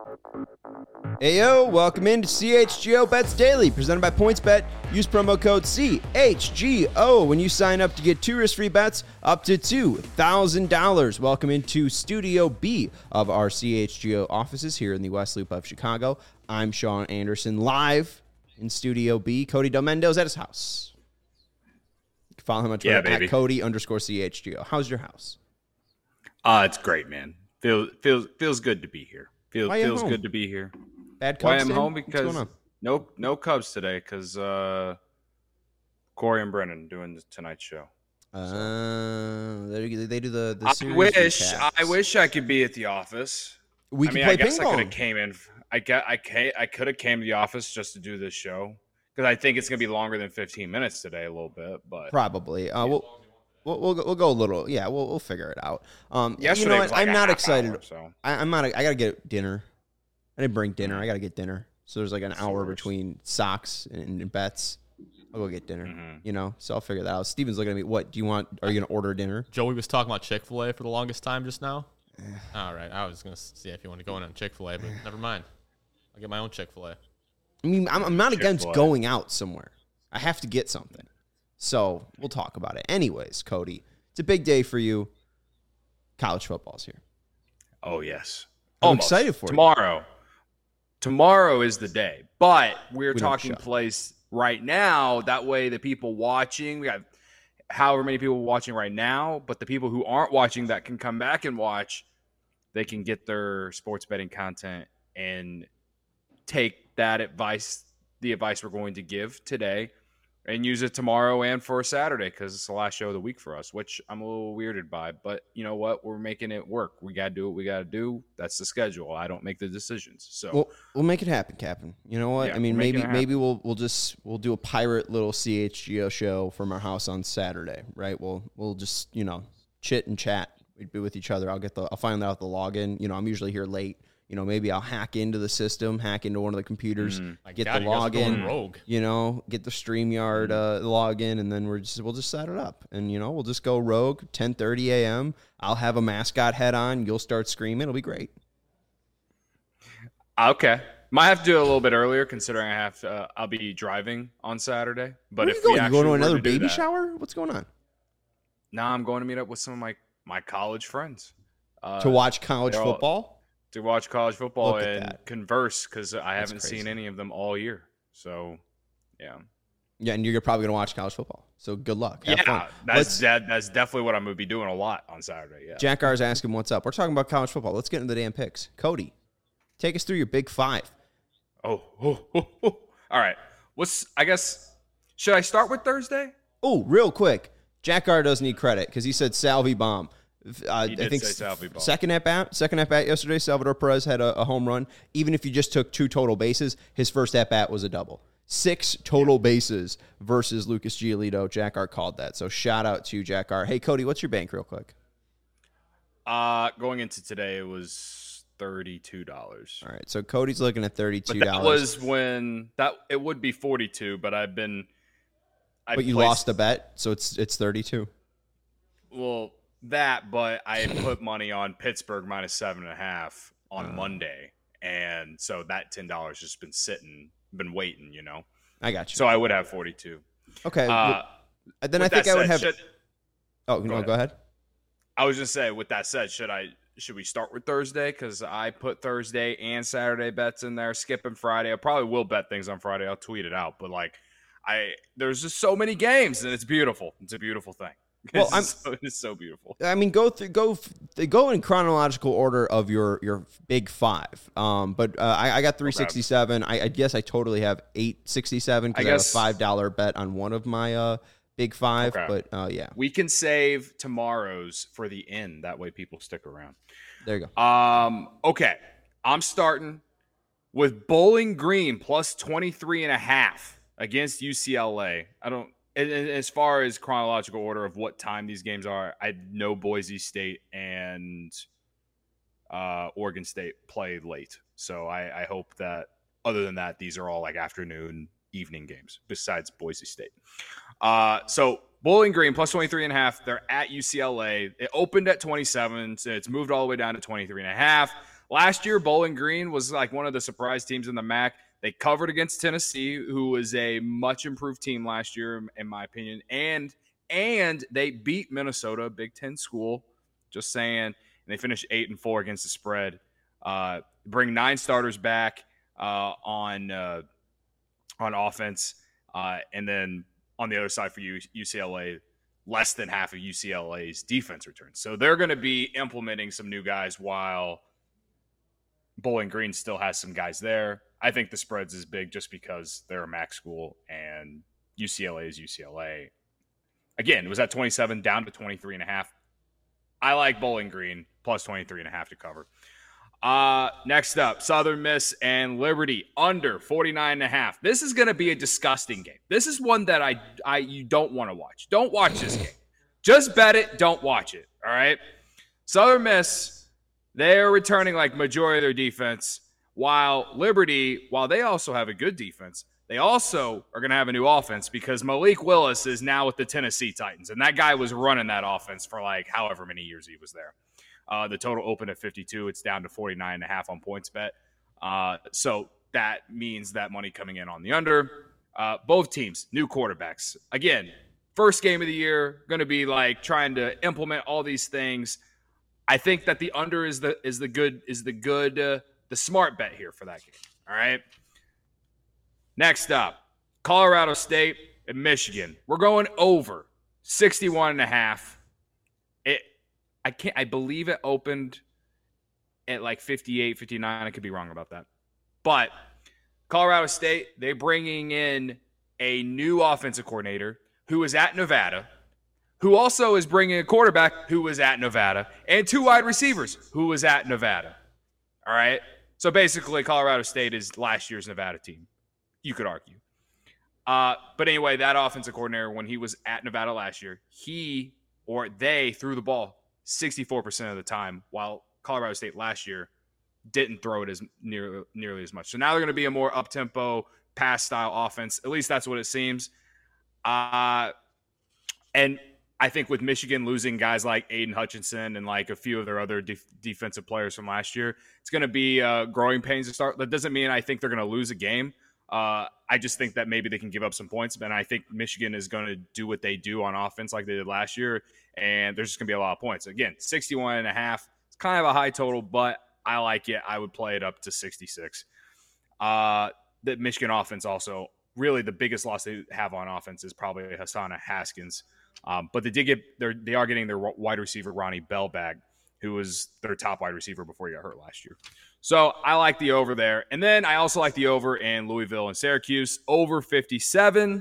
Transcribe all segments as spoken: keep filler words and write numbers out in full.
Hey yo, welcome into C H G O Bets Daily, presented by PointsBet. Use promo code C H G O when you sign up to get two risk-free bets up to two thousand dollars. Welcome into Studio B of our C H G O offices here in the West Loop of Chicago. I'm Sean Anderson, live in Studio B. Cody Del Mendo's at his house. You can follow him on Twitter yeah, at Cody underscore C H G O. How's your house? Uh, it's great, man. Feels feels feels good to be here. Feels feels home? good to be here. Bad Cubs Why I'm day? home What's because going on? no no Cubs today because uh, Corey and Brennan doing the Tonight Show. Uh, they, they do the, the I series wish recaps. I wish I could be at the office. We I could mean, play I guess ping I could pong. have came in. I get I ca- I could have came to the office just to do this show because I think it's gonna be longer than fifteen minutes today, a little bit. But Probably. Uh, we'll, we'll we'll go, we'll go a little. Yeah, we'll we'll figure it out. Um, yesterday you know what? was like I'm a not half excited. hour, so. I, I'm not. I gotta get dinner. I didn't bring dinner. I gotta get dinner. So there's like an That's the hour worst. between socks and, and bets. I'll go get dinner. Mhm. You know, so I'll figure that out. Steven's looking at me. What do you want? Are you gonna order dinner? Joey was talking about Chick-fil-A for the longest time just now. All right, I was going to see if you want to go in on Chick-fil-A, but never mind. I'll get my own Chick-fil-A. I mean, I'm, I'm not against Chick-fil-A. going out somewhere. I have to get something. So we'll talk about it. Anyways, Cody, it's a big day for you. College football's here. Oh yes, I'm Almost. excited for you. tomorrow. Tomorrow is the day, but we're We don't talking show. place right now. That way, the people watching, we have however many people watching right now, but the people who aren't watching that can come back and watch, they can get their sports betting content and take that advice, the advice we're going to give today, and use it tomorrow and for Saturday because it's the last show of the week for us, which I'm a little weirded by. But you know what? We're making it work. We got to do what we got to do. That's the schedule. I don't make the decisions. So We'll we'll make it happen, Captain. You know what? Yeah, I mean, we're making maybe it happen. maybe we'll we'll just we'll do a pirate little C H G O show from our house on Saturday, right? We'll we'll just you know chit and chat. We'd be with each other. I'll get the I'll find out the login. You know, I'm usually here late. You know, maybe I'll hack into the system, hack into one of the computers, My get God, the you guys are going login. rogue. You know, get the StreamYard uh, login, and then we're just we'll just set it up, and you know we'll just go rogue. ten thirty a.m. I'll have a mascot head on. You'll start screaming. It'll be great. okay, might have to do it a little bit earlier considering I have to, uh, I'll be driving on Saturday. But Where if you we going? You actually going to were another to do baby that- shower? What's going on? Nah, I'm going to meet up with some of my my college friends uh, To watch college they're all- football? to watch college football Look at and that. converse because I That's haven't crazy. seen any of them all year. So, yeah, Yeah, and you're probably going to watch college football. So good luck. Have yeah, fun. that's Let's- that, that's definitely what I'm gonna be doing a lot on Saturday. Yeah, Jack R's asking what's up. We're talking about college football. Let's get into the damn picks. Cody, take us through your big five. Oh, oh, oh, oh. All right. What's I guess should I start with Thursday? Oh, real quick. Jack R does need credit because he said Salvi bomb. Uh, He I did think say Salvi bomb. second at bat, second at bat yesterday. Salvador Perez had a, a home run. Even if you just took two total bases, his first at bat was a double. Six total bases versus Lucas Giolito. Jack R called that. So shout out to Jack R. Hey Cody, what's your bank, real quick? Uh going into today, it was thirty-two dollars. All right, so Cody's looking at thirty-two But dollars. that was when that it would be forty-two, but I've been. I But you placed- lost a bet, so it's it's thirty-two. Well, that, but I had put money on Pittsburgh minus seven and a half on Oh. Monday, and so that ten dollars just been sitting, been waiting, you know. I got you. So I would have forty-two. Okay, Uh, well, then I with think that I would said, have. should- oh no, ahead. go ahead. I was just saying. With that said, should I? Should we start with Thursday? Because I put Thursday and Saturday bets in there, skipping Friday. I probably will bet things on Friday. I'll tweet it out. But like, I there's just so many games, and it's beautiful. It's a beautiful thing. Well, It's I'm- so, it's so beautiful. I mean, go through, go, f- go in chronological order of your your big five. Um, but uh, I, I got three sixty seven. I, I guess I totally have eight sixty seven because I I, have a guess- five dollar bet on one of my uh big five. Okay. But uh, yeah, We can save tomorrow's for the end. That way, people stick around. there you go. Um, okay. I'm starting with Bowling Green plus twenty-three and a half against U C L A. I don't, and, and as far as chronological order of what time these games are, I know Boise State and uh, Oregon State play late. So I, I hope that other than that, these are all like afternoon, evening games besides Boise State. Uh, so Bowling Green plus twenty-three and a half. They're at U C L A. It opened at twenty-seven, so it's moved all the way down to twenty-three and a half. Last year, Bowling Green was like one of the surprise teams in the M A C. They covered against Tennessee, who was a much improved team last year, in my opinion. And and they beat Minnesota, a Big Ten school. Just saying. And they finished eight and four against the spread. Uh, bring nine starters back uh, on uh, on offense, uh, and then on the other side for U C L A, less than half of U C L A's defense returns. So they're going to be implementing some new guys while Bowling Green still has some guys there. I think the spreads is big just because they're a M A C school and U C L A is U C L A. Again, it was at twenty-seven down to twenty-three and a half. I like Bowling Green plus twenty-three and a half to cover. Uh, next up, Southern Miss and Liberty under forty-nine and a half. This is going to be a disgusting game. This is one that I, I you don't want to watch. Don't watch this game. Just bet it. Don't watch it. All right. Southern Miss, they're returning like majority of their defense, while Liberty, while they also have a good defense, they also are going to have a new offense because Malik Willis is now with the Tennessee Titans, and that guy was running that offense for like however many years he was there. Uh, the total opened at fifty-two. It's down to forty-nine and a half on PointsBet. Uh, so that means that money coming in on the under. Uh, both teams, new quarterbacks. Again, first game of the year, going to be like trying to implement all these things. I think that the under is the is the good is the good uh, the smart bet here for that game. All right. Next up, Colorado State and Michigan. We're going over sixty-one and a half. It. I can't. I believe it opened at like fifty-eight, fifty-nine. I could be wrong about that. But Colorado State, they're bringing in a new offensive coordinator who is at Nevada, who also is bringing a quarterback who was at Nevada, and two wide receivers who was at Nevada. All right? So basically, Colorado State is last year's Nevada team, you could argue. Uh, but anyway, that offensive coordinator, when he was at Nevada last year, he or they threw the ball sixty-four percent of the time, while Colorado State last year didn't throw it as near, nearly as much. So now they're going to be a more up-tempo, pass-style offense. At least that's what it seems. Uh, and I think with Michigan losing guys like Aiden Hutchinson and like a few of their other def- defensive players from last year, it's going to be uh, growing pains to start. That doesn't mean I think they're going to lose a game. Uh, I just think that maybe they can give up some points, and I think Michigan is going to do what they do on offense like they did last year, and there's just going to be a lot of points. Again, sixty-one and a half. It's kind of a high total, but I like it. I would play it up to sixty-six. Uh, the Michigan offense also, really the biggest loss they have on offense is probably Hassana Haskins. Um, but they did get their, they are getting their wide receiver, Ronnie Bell, back, who was their top wide receiver before he got hurt last year. So I like the over there. And then I also like the over in Louisville and Syracuse, over fifty-seven.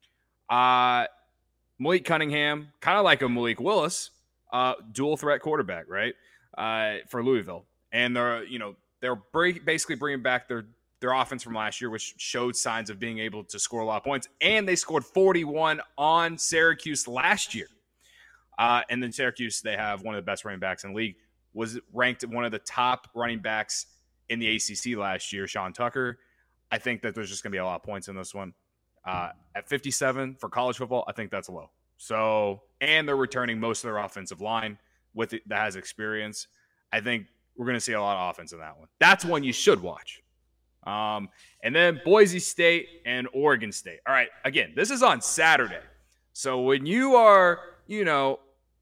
Uh, Malik Cunningham, kind of like a Malik Willis, uh, dual threat quarterback, right, uh, for Louisville. And they're, you know, they're basically bringing back their, their offense from last year, which showed signs of being able to score a lot of points. And they scored forty-one on Syracuse last year. Uh, and then Syracuse, they have one of the best running backs in the league, was ranked one of the top running backs in the A C C last year, Sean Tucker. I think that there's just going to be a lot of points in this one. Uh, at fifty-seven for college football, I think that's low. So, and they're returning most of their offensive line with it, that has experience. I think we're going to see a lot of offense in that one. That's one you should watch. Um, and then Boise State and Oregon State. All right, again, this is on Saturday. So when you are, you know,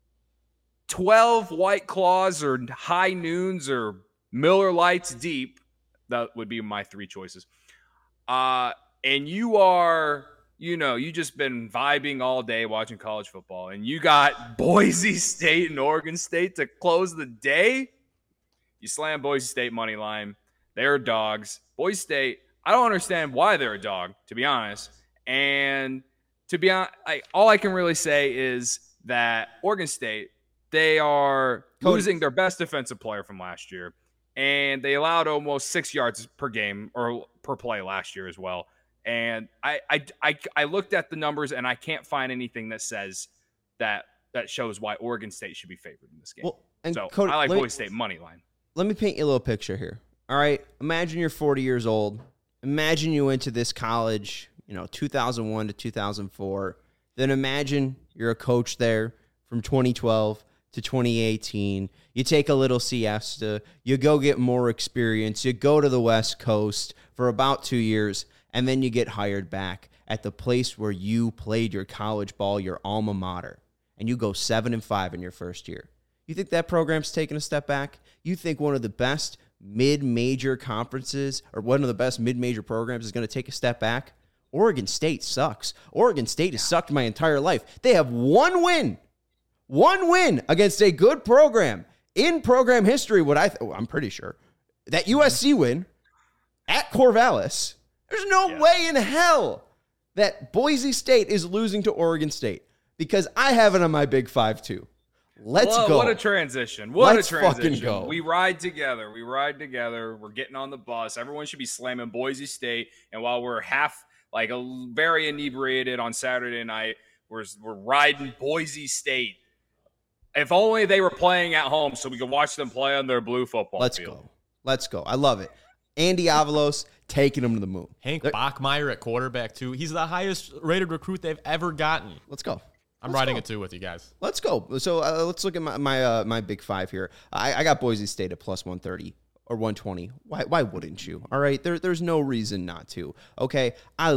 twelve White Claws or High Noons or Miller Lights deep, that would be my three choices. Uh, and you are, you know, you just been vibing all day watching college football, and you got Boise State and Oregon State to close the day. You slam Boise State money line. They're dogs. Boise State, I don't understand why they're a dog, to be honest. And to be honest, I, all I can really say is that Oregon State, they are Cody. losing their best defensive player from last year, and they allowed almost six yards per game or per play last year as well. And I, I, I, I looked at the numbers, and I can't find anything that says that that shows why Oregon State should be favored in this game. Well, and so Cody, I like Boise me, State money line. Let me paint you a little picture here. All right, imagine you're forty years old. Imagine you went to this college, you know, two thousand one to two thousand four. Then imagine you're a coach there from twenty twelve to twenty eighteen. You take a little siesta. You go get more experience. You go to the West Coast for about two years, and then you get hired back at the place where you played your college ball, your alma mater, and you go seven and five in your first year. You think that program's taking a step back? You think one of the best mid-major conferences or one of the best mid-major programs is going to take a step back? Oregon State sucks. Oregon State has sucked my entire life. They have one win, one win against a good program in program history. What I th- oh, I'm pretty sure that U S C win at Corvallis. There's no yeah. way in hell that Boise State is losing to Oregon State, because I have it on my Big Five too. Let's well, go. What a transition. What Let's a transition. Fucking go. We ride together. We ride together. We're getting on the bus. Everyone should be slamming Boise State. And while we're half, like, a, very inebriated on Saturday night, we're, we're riding Boise State. If only they were playing at home so we could watch them play on their blue football Let's field. go. Let's go. I love it. Andy Avalos taking them to the moon. Hank They're- Bachmeier at quarterback, too. He's the highest rated recruit they've ever gotten. Let's go. I'm Let's riding go. it, too, with you guys. Let's go. So uh, let's look at my my, uh, my Big Five here. I, I got Boise State at plus one thirty or one twenty. Why why wouldn't you? All right, there, there's no reason not to. Okay, I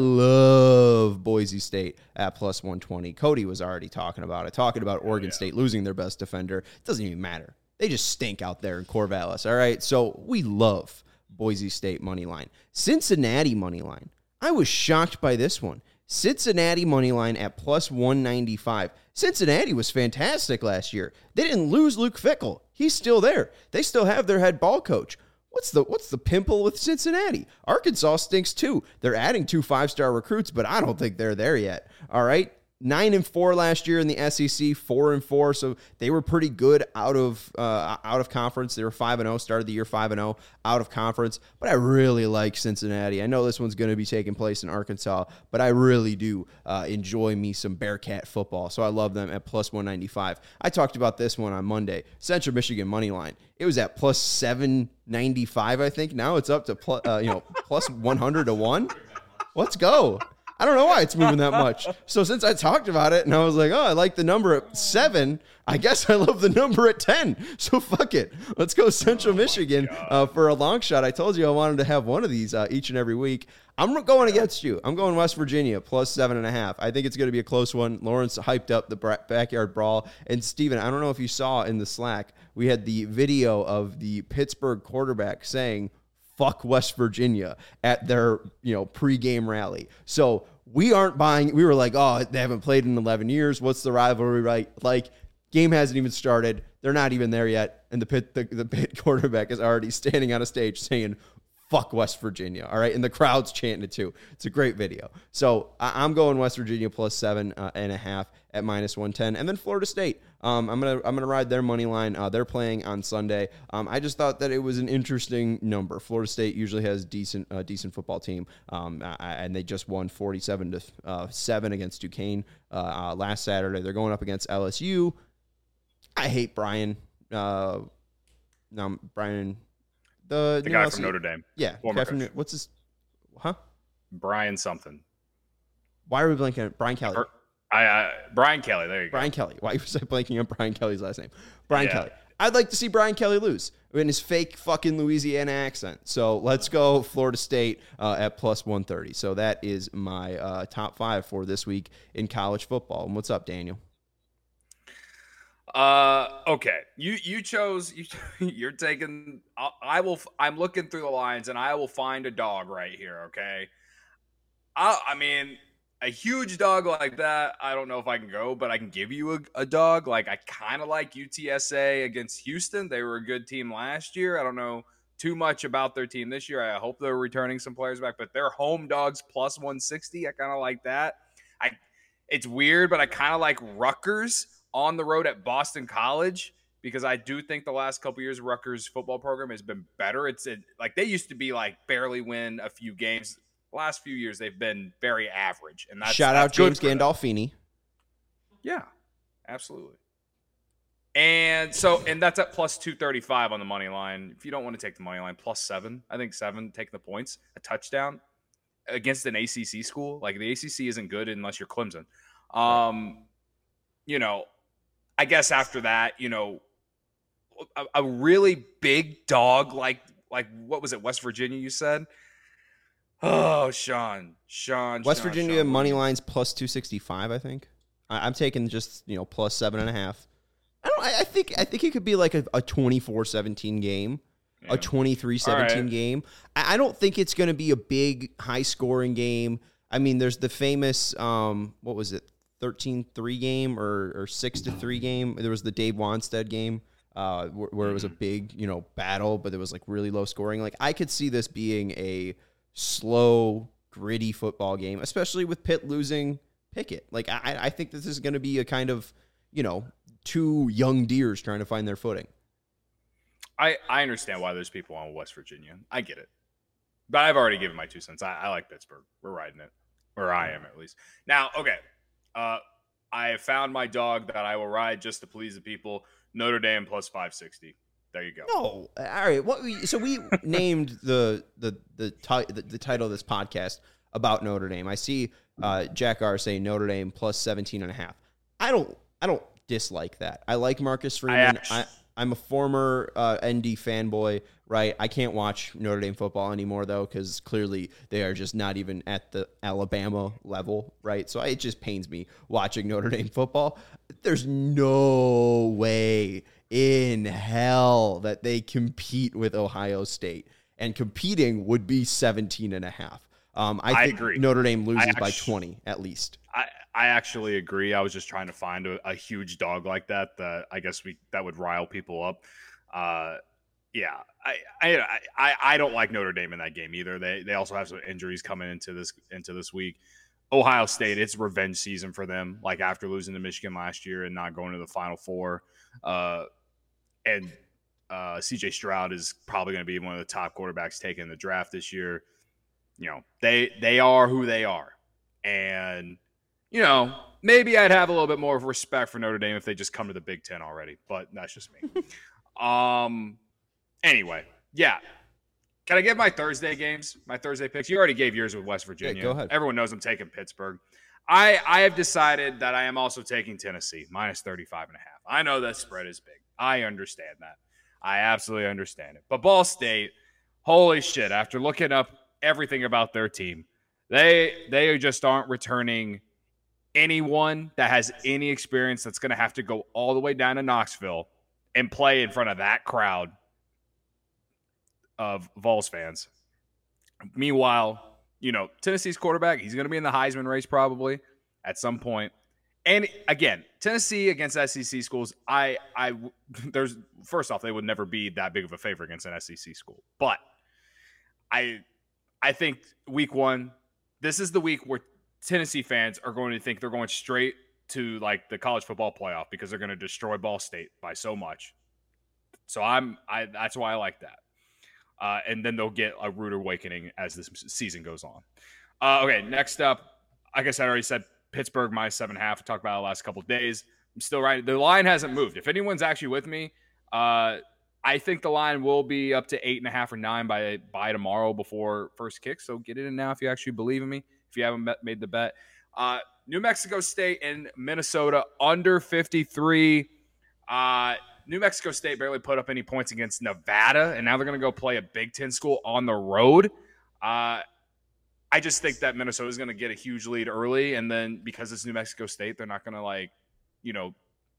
love Boise State at plus one twenty. Cody was already talking about it, talking about Oregon yeah. State losing their best defender. It doesn't even matter. They just stink out there in Corvallis. All right, so we love Boise State money line. Cincinnati money line. I was shocked by this one. Cincinnati money line at plus one ninety-five. Cincinnati was fantastic last year. They didn't lose Luke Fickell. He's still there. They still have their head ball coach. What's the what's the pimple with Cincinnati? Arkansas stinks too. They're adding two five-star recruits, but I don't think they're there yet. All right. Nine and four last year in the S E C, four and four, so they were pretty good out of uh, out of conference. They were five and zero, started the year five and zero out of conference. But I really like Cincinnati. I know this one's going to be taking place in Arkansas, but I really do uh, enjoy me some Bearcat football. So I love them at plus one ninety five. I talked about this one on Monday. Central Michigan money line. It was at plus seven ninety five. I think now it's up to plus, uh, you know plus one hundred to one. Let's go. I don't know why it's moving that much. So since I talked about it and I was like, oh, I like the number at seven, I guess I love the number at ten. So fuck it. Let's go Central oh Michigan uh, for a long shot. I told you I wanted to have one of these uh, each and every week. I'm going against you. I'm going West Virginia plus seven and a half. I think it's going to be a close one. Lawrence hyped up the backyard brawl. And Steven, I don't know if you saw in the Slack, we had the video of the Pittsburgh quarterback saying, fuck West Virginia at their, you know, pregame rally. So we aren't buying. We were like, oh, they haven't played in eleven years. What's the rivalry right? Like, game hasn't even started. They're not even there yet. And the Pitt, the, the Pitt quarterback is already standing on a stage saying, fuck West Virginia. All right. And the crowd's chanting it too. It's a great video. So I, I'm going West Virginia plus seven uh, and a half at minus one ten. And then Florida State. Um, I'm gonna I'm gonna ride their money line. Uh, they're playing on Sunday. Um, I just thought that it was an interesting number. Florida State usually has decent uh, decent football team, um, and they just won forty-seven to seven against Duquesne uh, uh, last Saturday. They're going up against L S U. I hate Brian. Uh, no, Brian, the, the guy L S U. from Notre Dame. Yeah, guy from, what's his? Huh? Brian something. Why are we blanking on Brian Kelly? Or, I, I Brian Kelly. There you Brian go. Kelly. Why was I blanking on Brian Kelly's last name? Brian Yeah. Kelly. I'd like to see Brian Kelly lose in his fake fucking Louisiana accent. So let's go Florida State uh, at plus one thirty. So that is my uh, top five for this week in college football. And what's up, Daniel? Uh, okay. You you chose you. You're taking. I, I will. I'm looking through the lines, and I will find a dog right here. Okay. I I mean, a huge dog like that, I don't know if I can go, but I can give you a, a dog. Like, I kind of like U T S A against Houston. They were a good team last year. I don't know too much about their team this year. I hope they're returning some players back, but they're home dogs plus one sixty. I kind of like that. I. It's weird, but I kind of like Rutgers on the road at Boston College because I do think the last couple years Rutgers football program has been better. It's it, like they used to be like barely win a few games. Last few years they've been very average, and that's shout that's out James good Gandolfini. Yeah, absolutely. And so, and that's at plus two thirty-five on the money line. If you don't want to take the money line, plus seven. I think seven, take the points, a touchdown against an A C C school. Like the A C C isn't good unless you're Clemson. Um, you know, I guess after that, you know, a, a really big dog like like what was it, West Virginia? You said. Oh, Sean, Sean, West Sean, Virginia Sean, money lines plus two sixty five. I think I, I'm taking just you know plus seven and a half. I don't. I, I think I think it could be like a, a twenty-four seventeen game, yeah. a twenty-three seventeen right. game. I, I don't think it's going to be a big high scoring game. I mean, there's the famous um, what was it, thirteen three game or or six to three game. There was the Dave Wanstead game. Uh, where, where it was a big, you know, battle, but it was like really low scoring. Like I could see this being a slow, gritty football game, especially with Pitt losing Pickett. Like I, I think this is going to be a kind of, you know, two young deers trying to find their footing. I I understand why there's people on West Virginia. I get it, but I've already given my two cents. I, I like Pittsburgh. We're riding it, or I am at least. Now, okay, uh, I have found my dog that I will ride just to please the people. Notre Dame plus five sixty. There you go. No, all right. What we so we named the the the, ti- the the title of this podcast about Notre Dame. I see uh, Jack R saying Notre Dame plus seventeen and a half. I don't I don't dislike that. I like Marcus Freeman. I actually, I, I'm a former uh, N D fanboy, right? I can't watch Notre Dame football anymore though because clearly they are just not even at the Alabama level, right? So it just pains me watching Notre Dame football. There's no way in hell that they compete with Ohio State, and competing would be seventeen and a half. Um, I, I think agree. Notre Dame loses actually, by twenty at least. I, I actually agree. I was just trying to find a, a huge dog like that that I guess we that would rile people up. Uh, yeah, I, I I I don't like Notre Dame in that game either. They they also have some injuries coming into this into this week. Ohio State, it's revenge season for them. Like after losing to Michigan last year and not going to the Final Four, uh, and uh, C J Stroud is probably going to be one of the top quarterbacks taken in the draft this year. You know, they they are who they are, and you know maybe I'd have a little bit more of respect for Notre Dame if they just come to the Big Ten already. But that's just me. um. Anyway, yeah. Can I give my Thursday games, my Thursday picks? You already gave yours with West Virginia. Yeah, go ahead. Everyone knows I'm taking Pittsburgh. I, I have decided that I am also taking Tennessee, minus thirty-five and a half. I know that spread is big. I understand that. I absolutely understand it. But Ball State, holy shit, after looking up everything about their team, they they just aren't returning anyone that has any experience that's going to have to go all the way down to Knoxville and play in front of that crowd of Vols fans. Meanwhile, you know, Tennessee's quarterback, he's going to be in the Heisman race probably at some point. And again, Tennessee against S E C schools, I, I, there's first off, they would never be that big of a favorite against an S E C school. But I, I think week one, this is the week where Tennessee fans are going to think they're going straight to like the college football playoff because they're going to destroy Ball State by so much. So I'm, I, that's why I like that. Uh, and then they'll get a rude awakening as this season goes on. Uh, okay, next up, I guess I already said Pittsburgh minus seven and a half. We talked about it the last couple of days. I'm still right. The line hasn't moved. If anyone's actually with me, uh, I think the line will be up to eight and a half or nine by by tomorrow before first kick. So get it in now if you actually believe in me. If you haven't made the bet, uh, New Mexico State and Minnesota under fifty-three. Uh, New Mexico State barely put up any points against Nevada, and now they're going to go play a Big Ten school on the road. Uh, I just think that Minnesota is going to get a huge lead early, and then because it's New Mexico State, they're not going to, like, you know,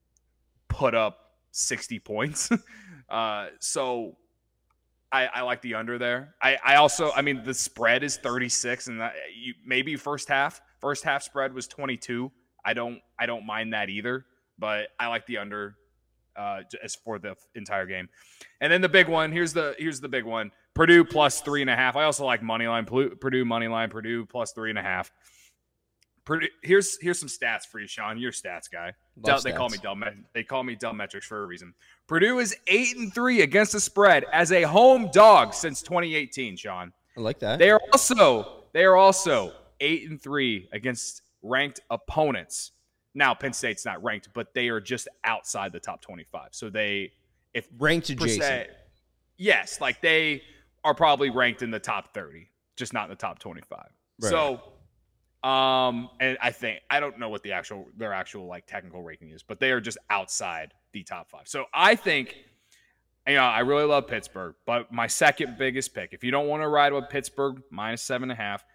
put up sixty points. uh, so I, I like the under there. I, I also, I mean, the spread is thirty-six, and that, you, maybe first half, first half spread was twenty-two. I don't, I don't mind that either, but I like the under. Uh, as for the entire game. And then the big one, here's the here's the big one. Purdue plus three and a half. I also like money line. Purdue money line. Purdue plus three and a half. Purdue, here's here's some stats for you, Sean. You're a stats guy. Del, they call me Del. They call me Del Metrics for a reason. Purdue is eight and three against the spread as a home dog since twenty eighteen. Sean, I like that. They are also they are also eight and three against ranked opponents. Now, Penn State's not ranked, but they are just outside the top twenty-five. So they, if ranked adjacent, se, yes, like they are probably ranked in the top thirty, just not in the top twenty-five. Right. So, Um, and I think I don't know what the actual their actual like technical ranking is, but they are just outside the top five. So I think, you know, I really love Pittsburgh, but my second biggest pick, if you don't want to ride with Pittsburgh minus seven and a half,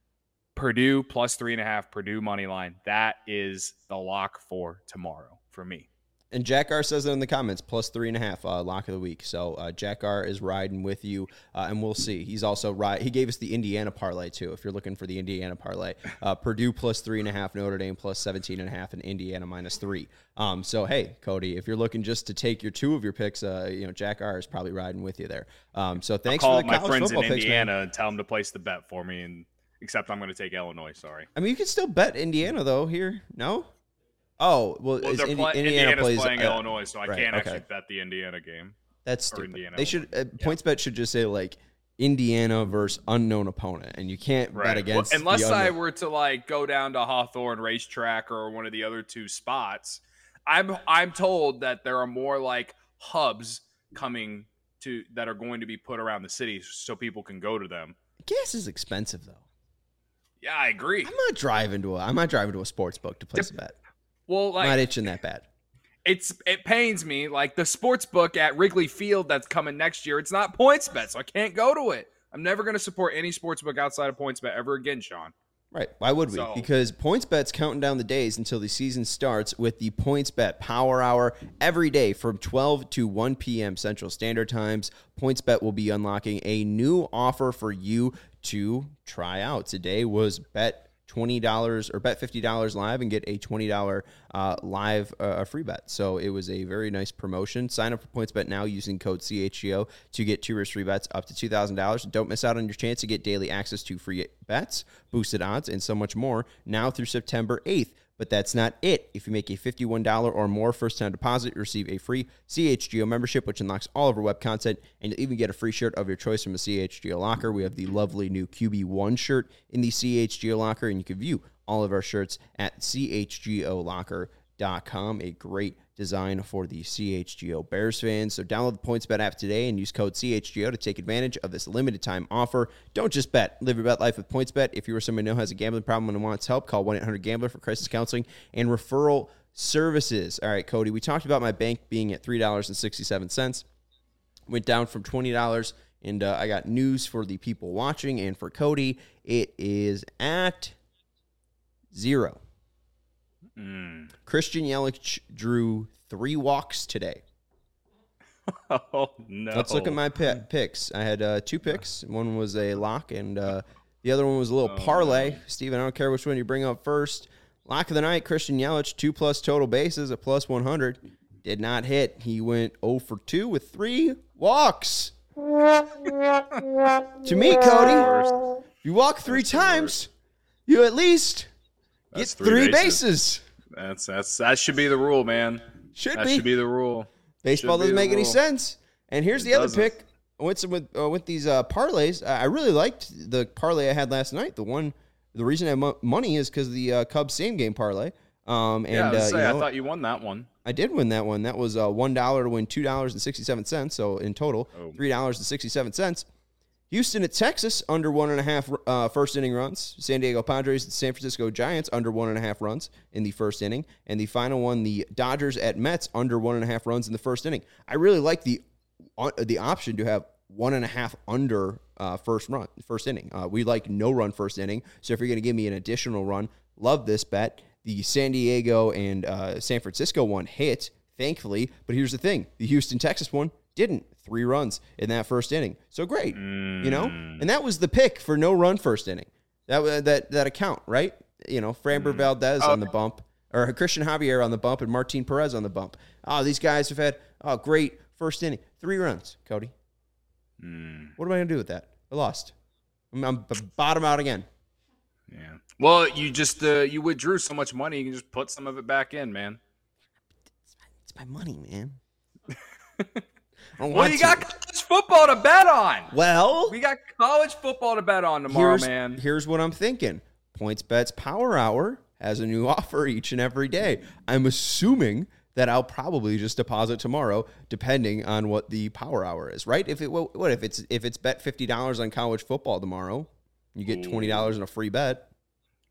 Purdue plus three and a half, Purdue money line. That is the lock for tomorrow for me. And Jack R says it in the comments, plus three and a half, uh, lock of the week. So uh, Jack R is riding with you, uh, and we'll see. He's also ride. He gave us the Indiana parlay too. If you're looking for the Indiana parlay, uh, Purdue plus three and a half, Notre Dame plus seventeen and a half, and Indiana minus three. Um, so hey, Cody, if you're looking just to take your two of your picks, uh, you know Jack R is probably riding with you there. Um, so thanks I'll call for the my college friends football in picks, Indiana man. and tell them to place the bet for me, and except I'm going to take Illinois. Sorry. I mean, you can still bet Indiana though here. No. Oh, well, Well, is they're Indi- play- Indiana Indiana's plays playing uh, Illinois, so I right, can't okay. actually bet the Indiana game. That's or stupid. Indiana They should uh, yeah. PointsBet should just say like Indiana versus unknown opponent, and you can't bet Right. against Well, unless the I unknown. were to like go down to Hawthorne Racetrack or one of the other two spots. I'm I'm told that there are more like hubs coming to that are going to be put around the city so people can go to them. Gas is expensive though. Yeah, I agree. I'm not driving to a I'm not driving to a sports book to place a bet. Well, I'm like not itching that bad. it's it pains me. Like the sports book at Wrigley Field that's coming next year, it's not PointsBet, so I can't go to it. I'm never going to support any sports book outside of PointsBet ever again, Sean. Right. Why would we? So- Because PointsBet's counting down the days until the season starts with the PointsBet Power Hour every day from twelve to one p.m. Central Standard Times. PointsBet will be unlocking a new offer for you to try out. Today was bet twenty dollars or bet fifty dollars live and get a twenty dollars uh, live uh, free bet. So it was a very nice promotion. Sign up for PointsBet now using code C H G O to get two risk free bets up to two thousand dollars. Don't miss out on your chance to get daily access to free bets, boosted odds, and so much more now through September eighth. But that's not it. If you make a fifty-one dollars or more first-time deposit, you receive a free C H G O membership, which unlocks all of our web content, and you'll even get a free shirt of your choice from the C H G O locker. We have the lovely new Q B one shirt in the C H G O locker, and you can view all of our shirts at C H G O locker dot com. A great design for the C H G O Bears fans. So download the PointsBet app today and use code C H G O to take advantage of this limited time offer. Don't just bet. Live your bet life with PointsBet. If you or someone you know has a gambling problem and wants help, call one eight hundred gambler for crisis counseling and referral services. All right, Cody, we talked about my bank being at three dollars and sixty-seven cents. Went down from twenty dollars, and uh, I got news for the people watching and for Cody. It is at zero. Mm. Christian Yelich drew three walks today. Oh, no. Let's look at my pi- picks. I had uh, two picks. One was a lock, and uh, the other one was a little Oh, parlay. no. Steven, I don't care which one you bring up first. Lock of the night, Christian Yelich, two plus total bases at plus one hundred. Did not hit. He went oh for two with three walks. To me, Cody, you walk three That's the times, you at least get That's three, three bases. bases. That's that's that should be the rule, man. Should that be. should be the rule. Baseball Should be doesn't the make any rule. sense. And here's It the other doesn't. pick. I went some with uh, with these uh, parlays. I I really liked the parlay I had last night. The one, the reason I had mo- money is because the uh, Cubs same game parlay. Um, and Yeah, I, was uh, say, you I know, thought you won that one. I did win that one. That was uh, one dollar to win two dollars and sixty seven cents. So in total, Oh. three dollars and sixty seven cents. Houston at Texas under one and a half uh, first inning runs. San Diego Padres at San Francisco Giants under one and a half runs in the first inning, and the final one, the Dodgers at Mets under one and a half runs in the first inning. I really like the uh, the option to have one and a half under uh, first run first inning. Uh, we like no run first inning, so if you're going to give me an additional run, love this bet. The San Diego and uh, San Francisco one hit, thankfully, but here's the thing: the Houston Texas one didn't. Three runs in that first inning. So great, Mm. you know? And that was the pick for no run first inning. That wa- that that account, right? You know, Framber Mm. Valdez Oh. on the bump, or Christian Javier on the bump, and Martin Perez on the bump. Oh, these guys have had, oh, great first inning. Three runs, Cody. Mm. What am I going to do with that? I lost. I'm, I'm b- bottom out again. Yeah. Well, you just uh, you withdrew so much money, you can just put some of it back in, man. It's my money, man. I don't Well, want you to. got college football to bet on. Well, We got college football to bet on tomorrow, here's, man. Here's what I'm thinking. PointsBet's Power Hour has a new offer each and every day. I'm assuming that I'll probably just deposit tomorrow, depending on what the Power Hour is, right? If it what what if it's if it's bet fifty dollars on college football tomorrow, you get twenty dollars in a free bet.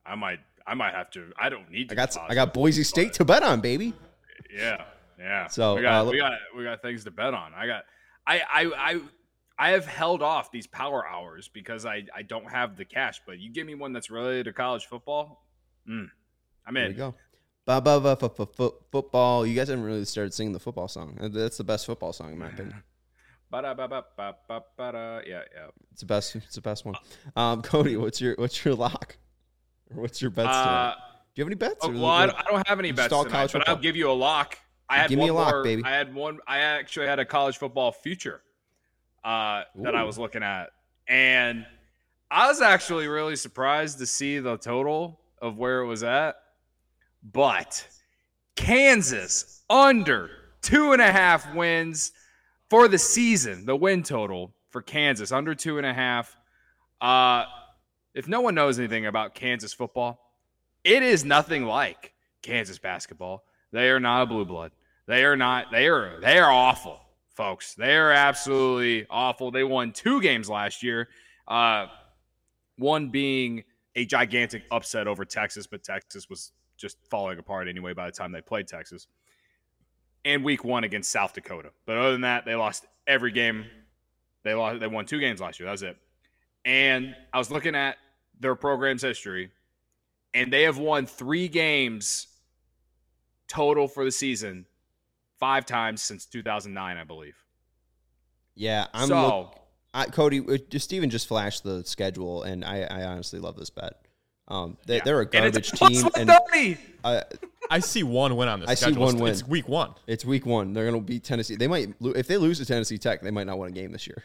I might I might have to. I don't need to. I got college I got Boise football, State but- to bet on, baby. Yeah, yeah. So, we got uh, we got we got things to bet on. I got I I I I have held off these power hours because I I don't have the cash. But you give me one that's related to college football, mm, I'm There we in. go. Ba ba ba fa- fa- fa- football. You guys haven't really started singing the football song. That's the best football song in my opinion. Ba-da-ba-ba-ba-ba-ba-da. Yeah, yeah. It's the best. It's the best one. Um, Cody, what's your what's your lock? Or what's your bets Uh, today? Do you have any bets? Oh, or well, I like- don't, I don't have any you bets just all tonight, college but football? I'll give you a lock. I had Give one me a lock, more, baby. I had one. I actually had a college football future uh, that I Ooh. was looking at, and I was actually really surprised to see the total of where it was at. But Kansas under two and a half wins for the season. The win total for Kansas under two and a half. Uh, if no one knows anything about Kansas football, it is nothing like Kansas basketball. They are not a blue blood. They are not. They are. They are awful, folks. They are absolutely awful. They won two games last year. Uh, one being a gigantic upset over Texas, but Texas was just falling apart anyway by the time they played Texas. And week one against South Dakota. But other than that, they lost every game. They lost. They won two games last year. That was it. And I was looking at their program's history, and they have won three games total for the season, five times since two thousand nine, I believe. Yeah, I'm. so, Look, I, Cody, uh, just Steven just flashed the schedule, and I, I honestly love this bet. Um, they, yeah. they're a And garbage it's plus team, and one thirty. uh, I see one win on this. I see schedule. one It's- win. It's week one. it's week one. They're going to beat Tennessee. They might, lo- if they lose to Tennessee Tech, they might not win a game this year.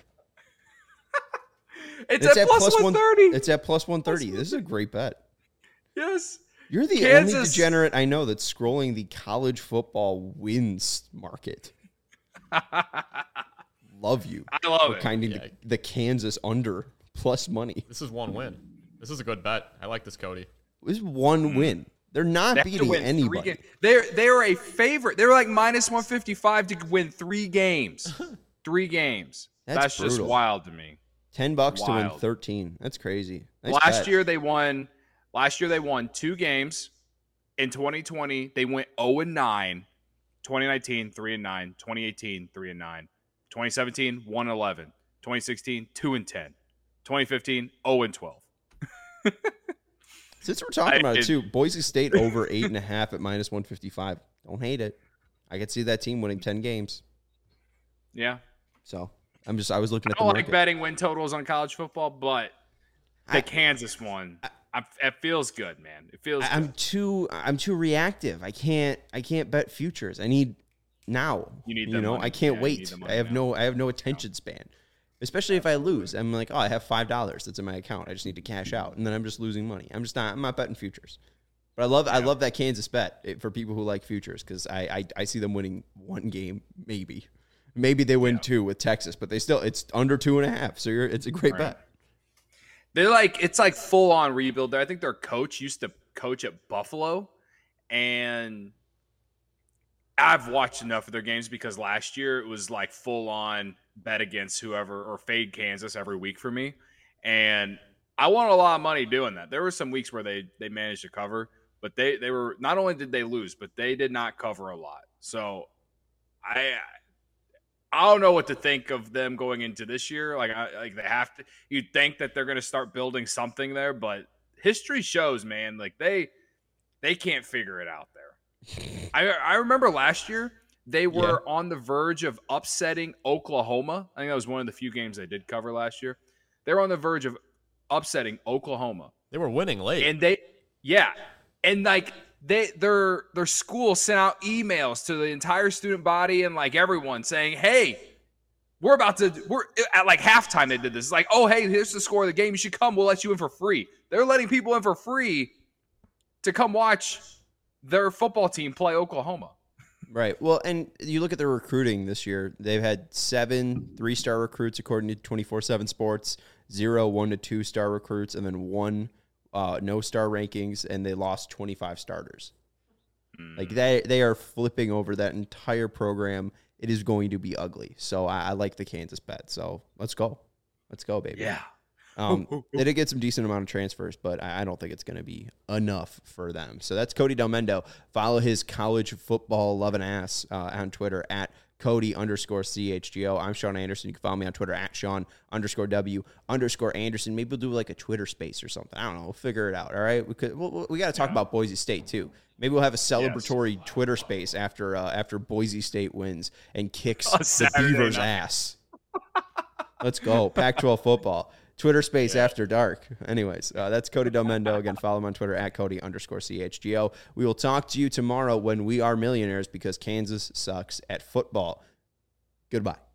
It's, at plus one thirty. It's at plus one thirty. This is a great bet. Yes. You're the only Kansas- degenerate I know that's scrolling the college football wins market. Love you. I love for it. kind of Yeah. the, the Kansas under plus money. This is one win. This is a good bet. I like this, Cody. This is one win. They're not Mm. They have to beating win three anybody. games. They're they're a favorite. They're like minus one fifty five to win three games. three games. That's That's, just brutal. wild to me. Ten bucks to win Wild. thirteen. That's crazy. Nice last bet. year they won. Last year they won two games. In twenty twenty they went zero and nine. twenty nineteen three and nine. twenty eighteen three and nine. twenty seventeen one and eleven. twenty sixteen two and ten. twenty fifteen zero and twelve. Since we're talking I- about it it- too, Boise State over eight and a half at minus one fifty five. Don't hate it. I could see that team winning ten games. Yeah. So I'm just I was looking I at the don't like market. betting win totals on college football, but the I- Kansas one, I, it feels good, man. It feels. I- I'm good. too I'm too reactive. I can't I can't bet futures. I need now. You need you the know, money. I can't Yeah, you need wait. the money I have now. no I have no attention span. Especially if I lose. I'm like, oh, I have five dollars that's in my account. I just need to cash out. And then I'm just losing money. I'm just not I'm not betting futures. But I love I love that Kansas bet it, for people who like futures because I, I I see them winning one game, maybe. Maybe they win two with Texas, but they still it's under two and a half. So you're it's a great Right. bet. They're like it's like full on rebuild. I think their coach used to coach at Buffalo, and I've watched enough of their games because last year it was like full on bet against whoever or fade Kansas every week for me, and I won a lot of money doing that. There were some weeks where they they managed to cover, but they they were not only did they lose, but they did not cover a lot. So I. I don't know what to think of them going into this year. Like, I, like they have to. You'd think that they're going to start building something there, but history shows, man, like they they can't figure it out there. I I remember last year they were on the verge of upsetting Oklahoma. I think that was one of the few games they did cover last year. They were on the verge of upsetting Oklahoma, They were winning late. and they, yeah, and like. They their their school sent out emails to the entire student body and like everyone saying, "Hey, we're about to we're at like halftime." They did this. It's like, "Oh, hey, here's the score of the game. You should come. We'll let you in for free." They're letting people in for free to come watch their football team play Oklahoma. Right. Well, and you look at their recruiting this year. They've had seven three-star recruits according to twenty-four seven Sports, zero one to two-star recruits, and then one uh, no-star rankings, and they lost twenty-five starters. Mm. Like they they are flipping over that entire program. It is going to be ugly. So I, I like the Kansas bet. So let's go. Let's go, baby. Yeah. Um, they did get some decent amount of transfers, but I, I don't think it's going to be enough for them. So that's Cody Delmendo. Follow his college football loving ass uh, on Twitter at Cody underscore C H G O. I'm Sean Anderson. You can follow me on Twitter at Sean underscore W underscore Anderson. Maybe we'll do like a Twitter space or something. I don't know. We'll figure it out. All right. We could. We'll, we got to talk yeah. about Boise State too. Maybe we'll have a celebratory yes. Twitter space after uh, after Boise State wins and kicks the Beavers' night. ass. Let's go. Pac twelve football. Twitter space yeah. after dark. Anyways, uh, that's Cody Delmendo. Again, follow him on Twitter at Cody underscore C H G O. We will talk to you tomorrow when we are millionaires because Kansas sucks at football. Goodbye.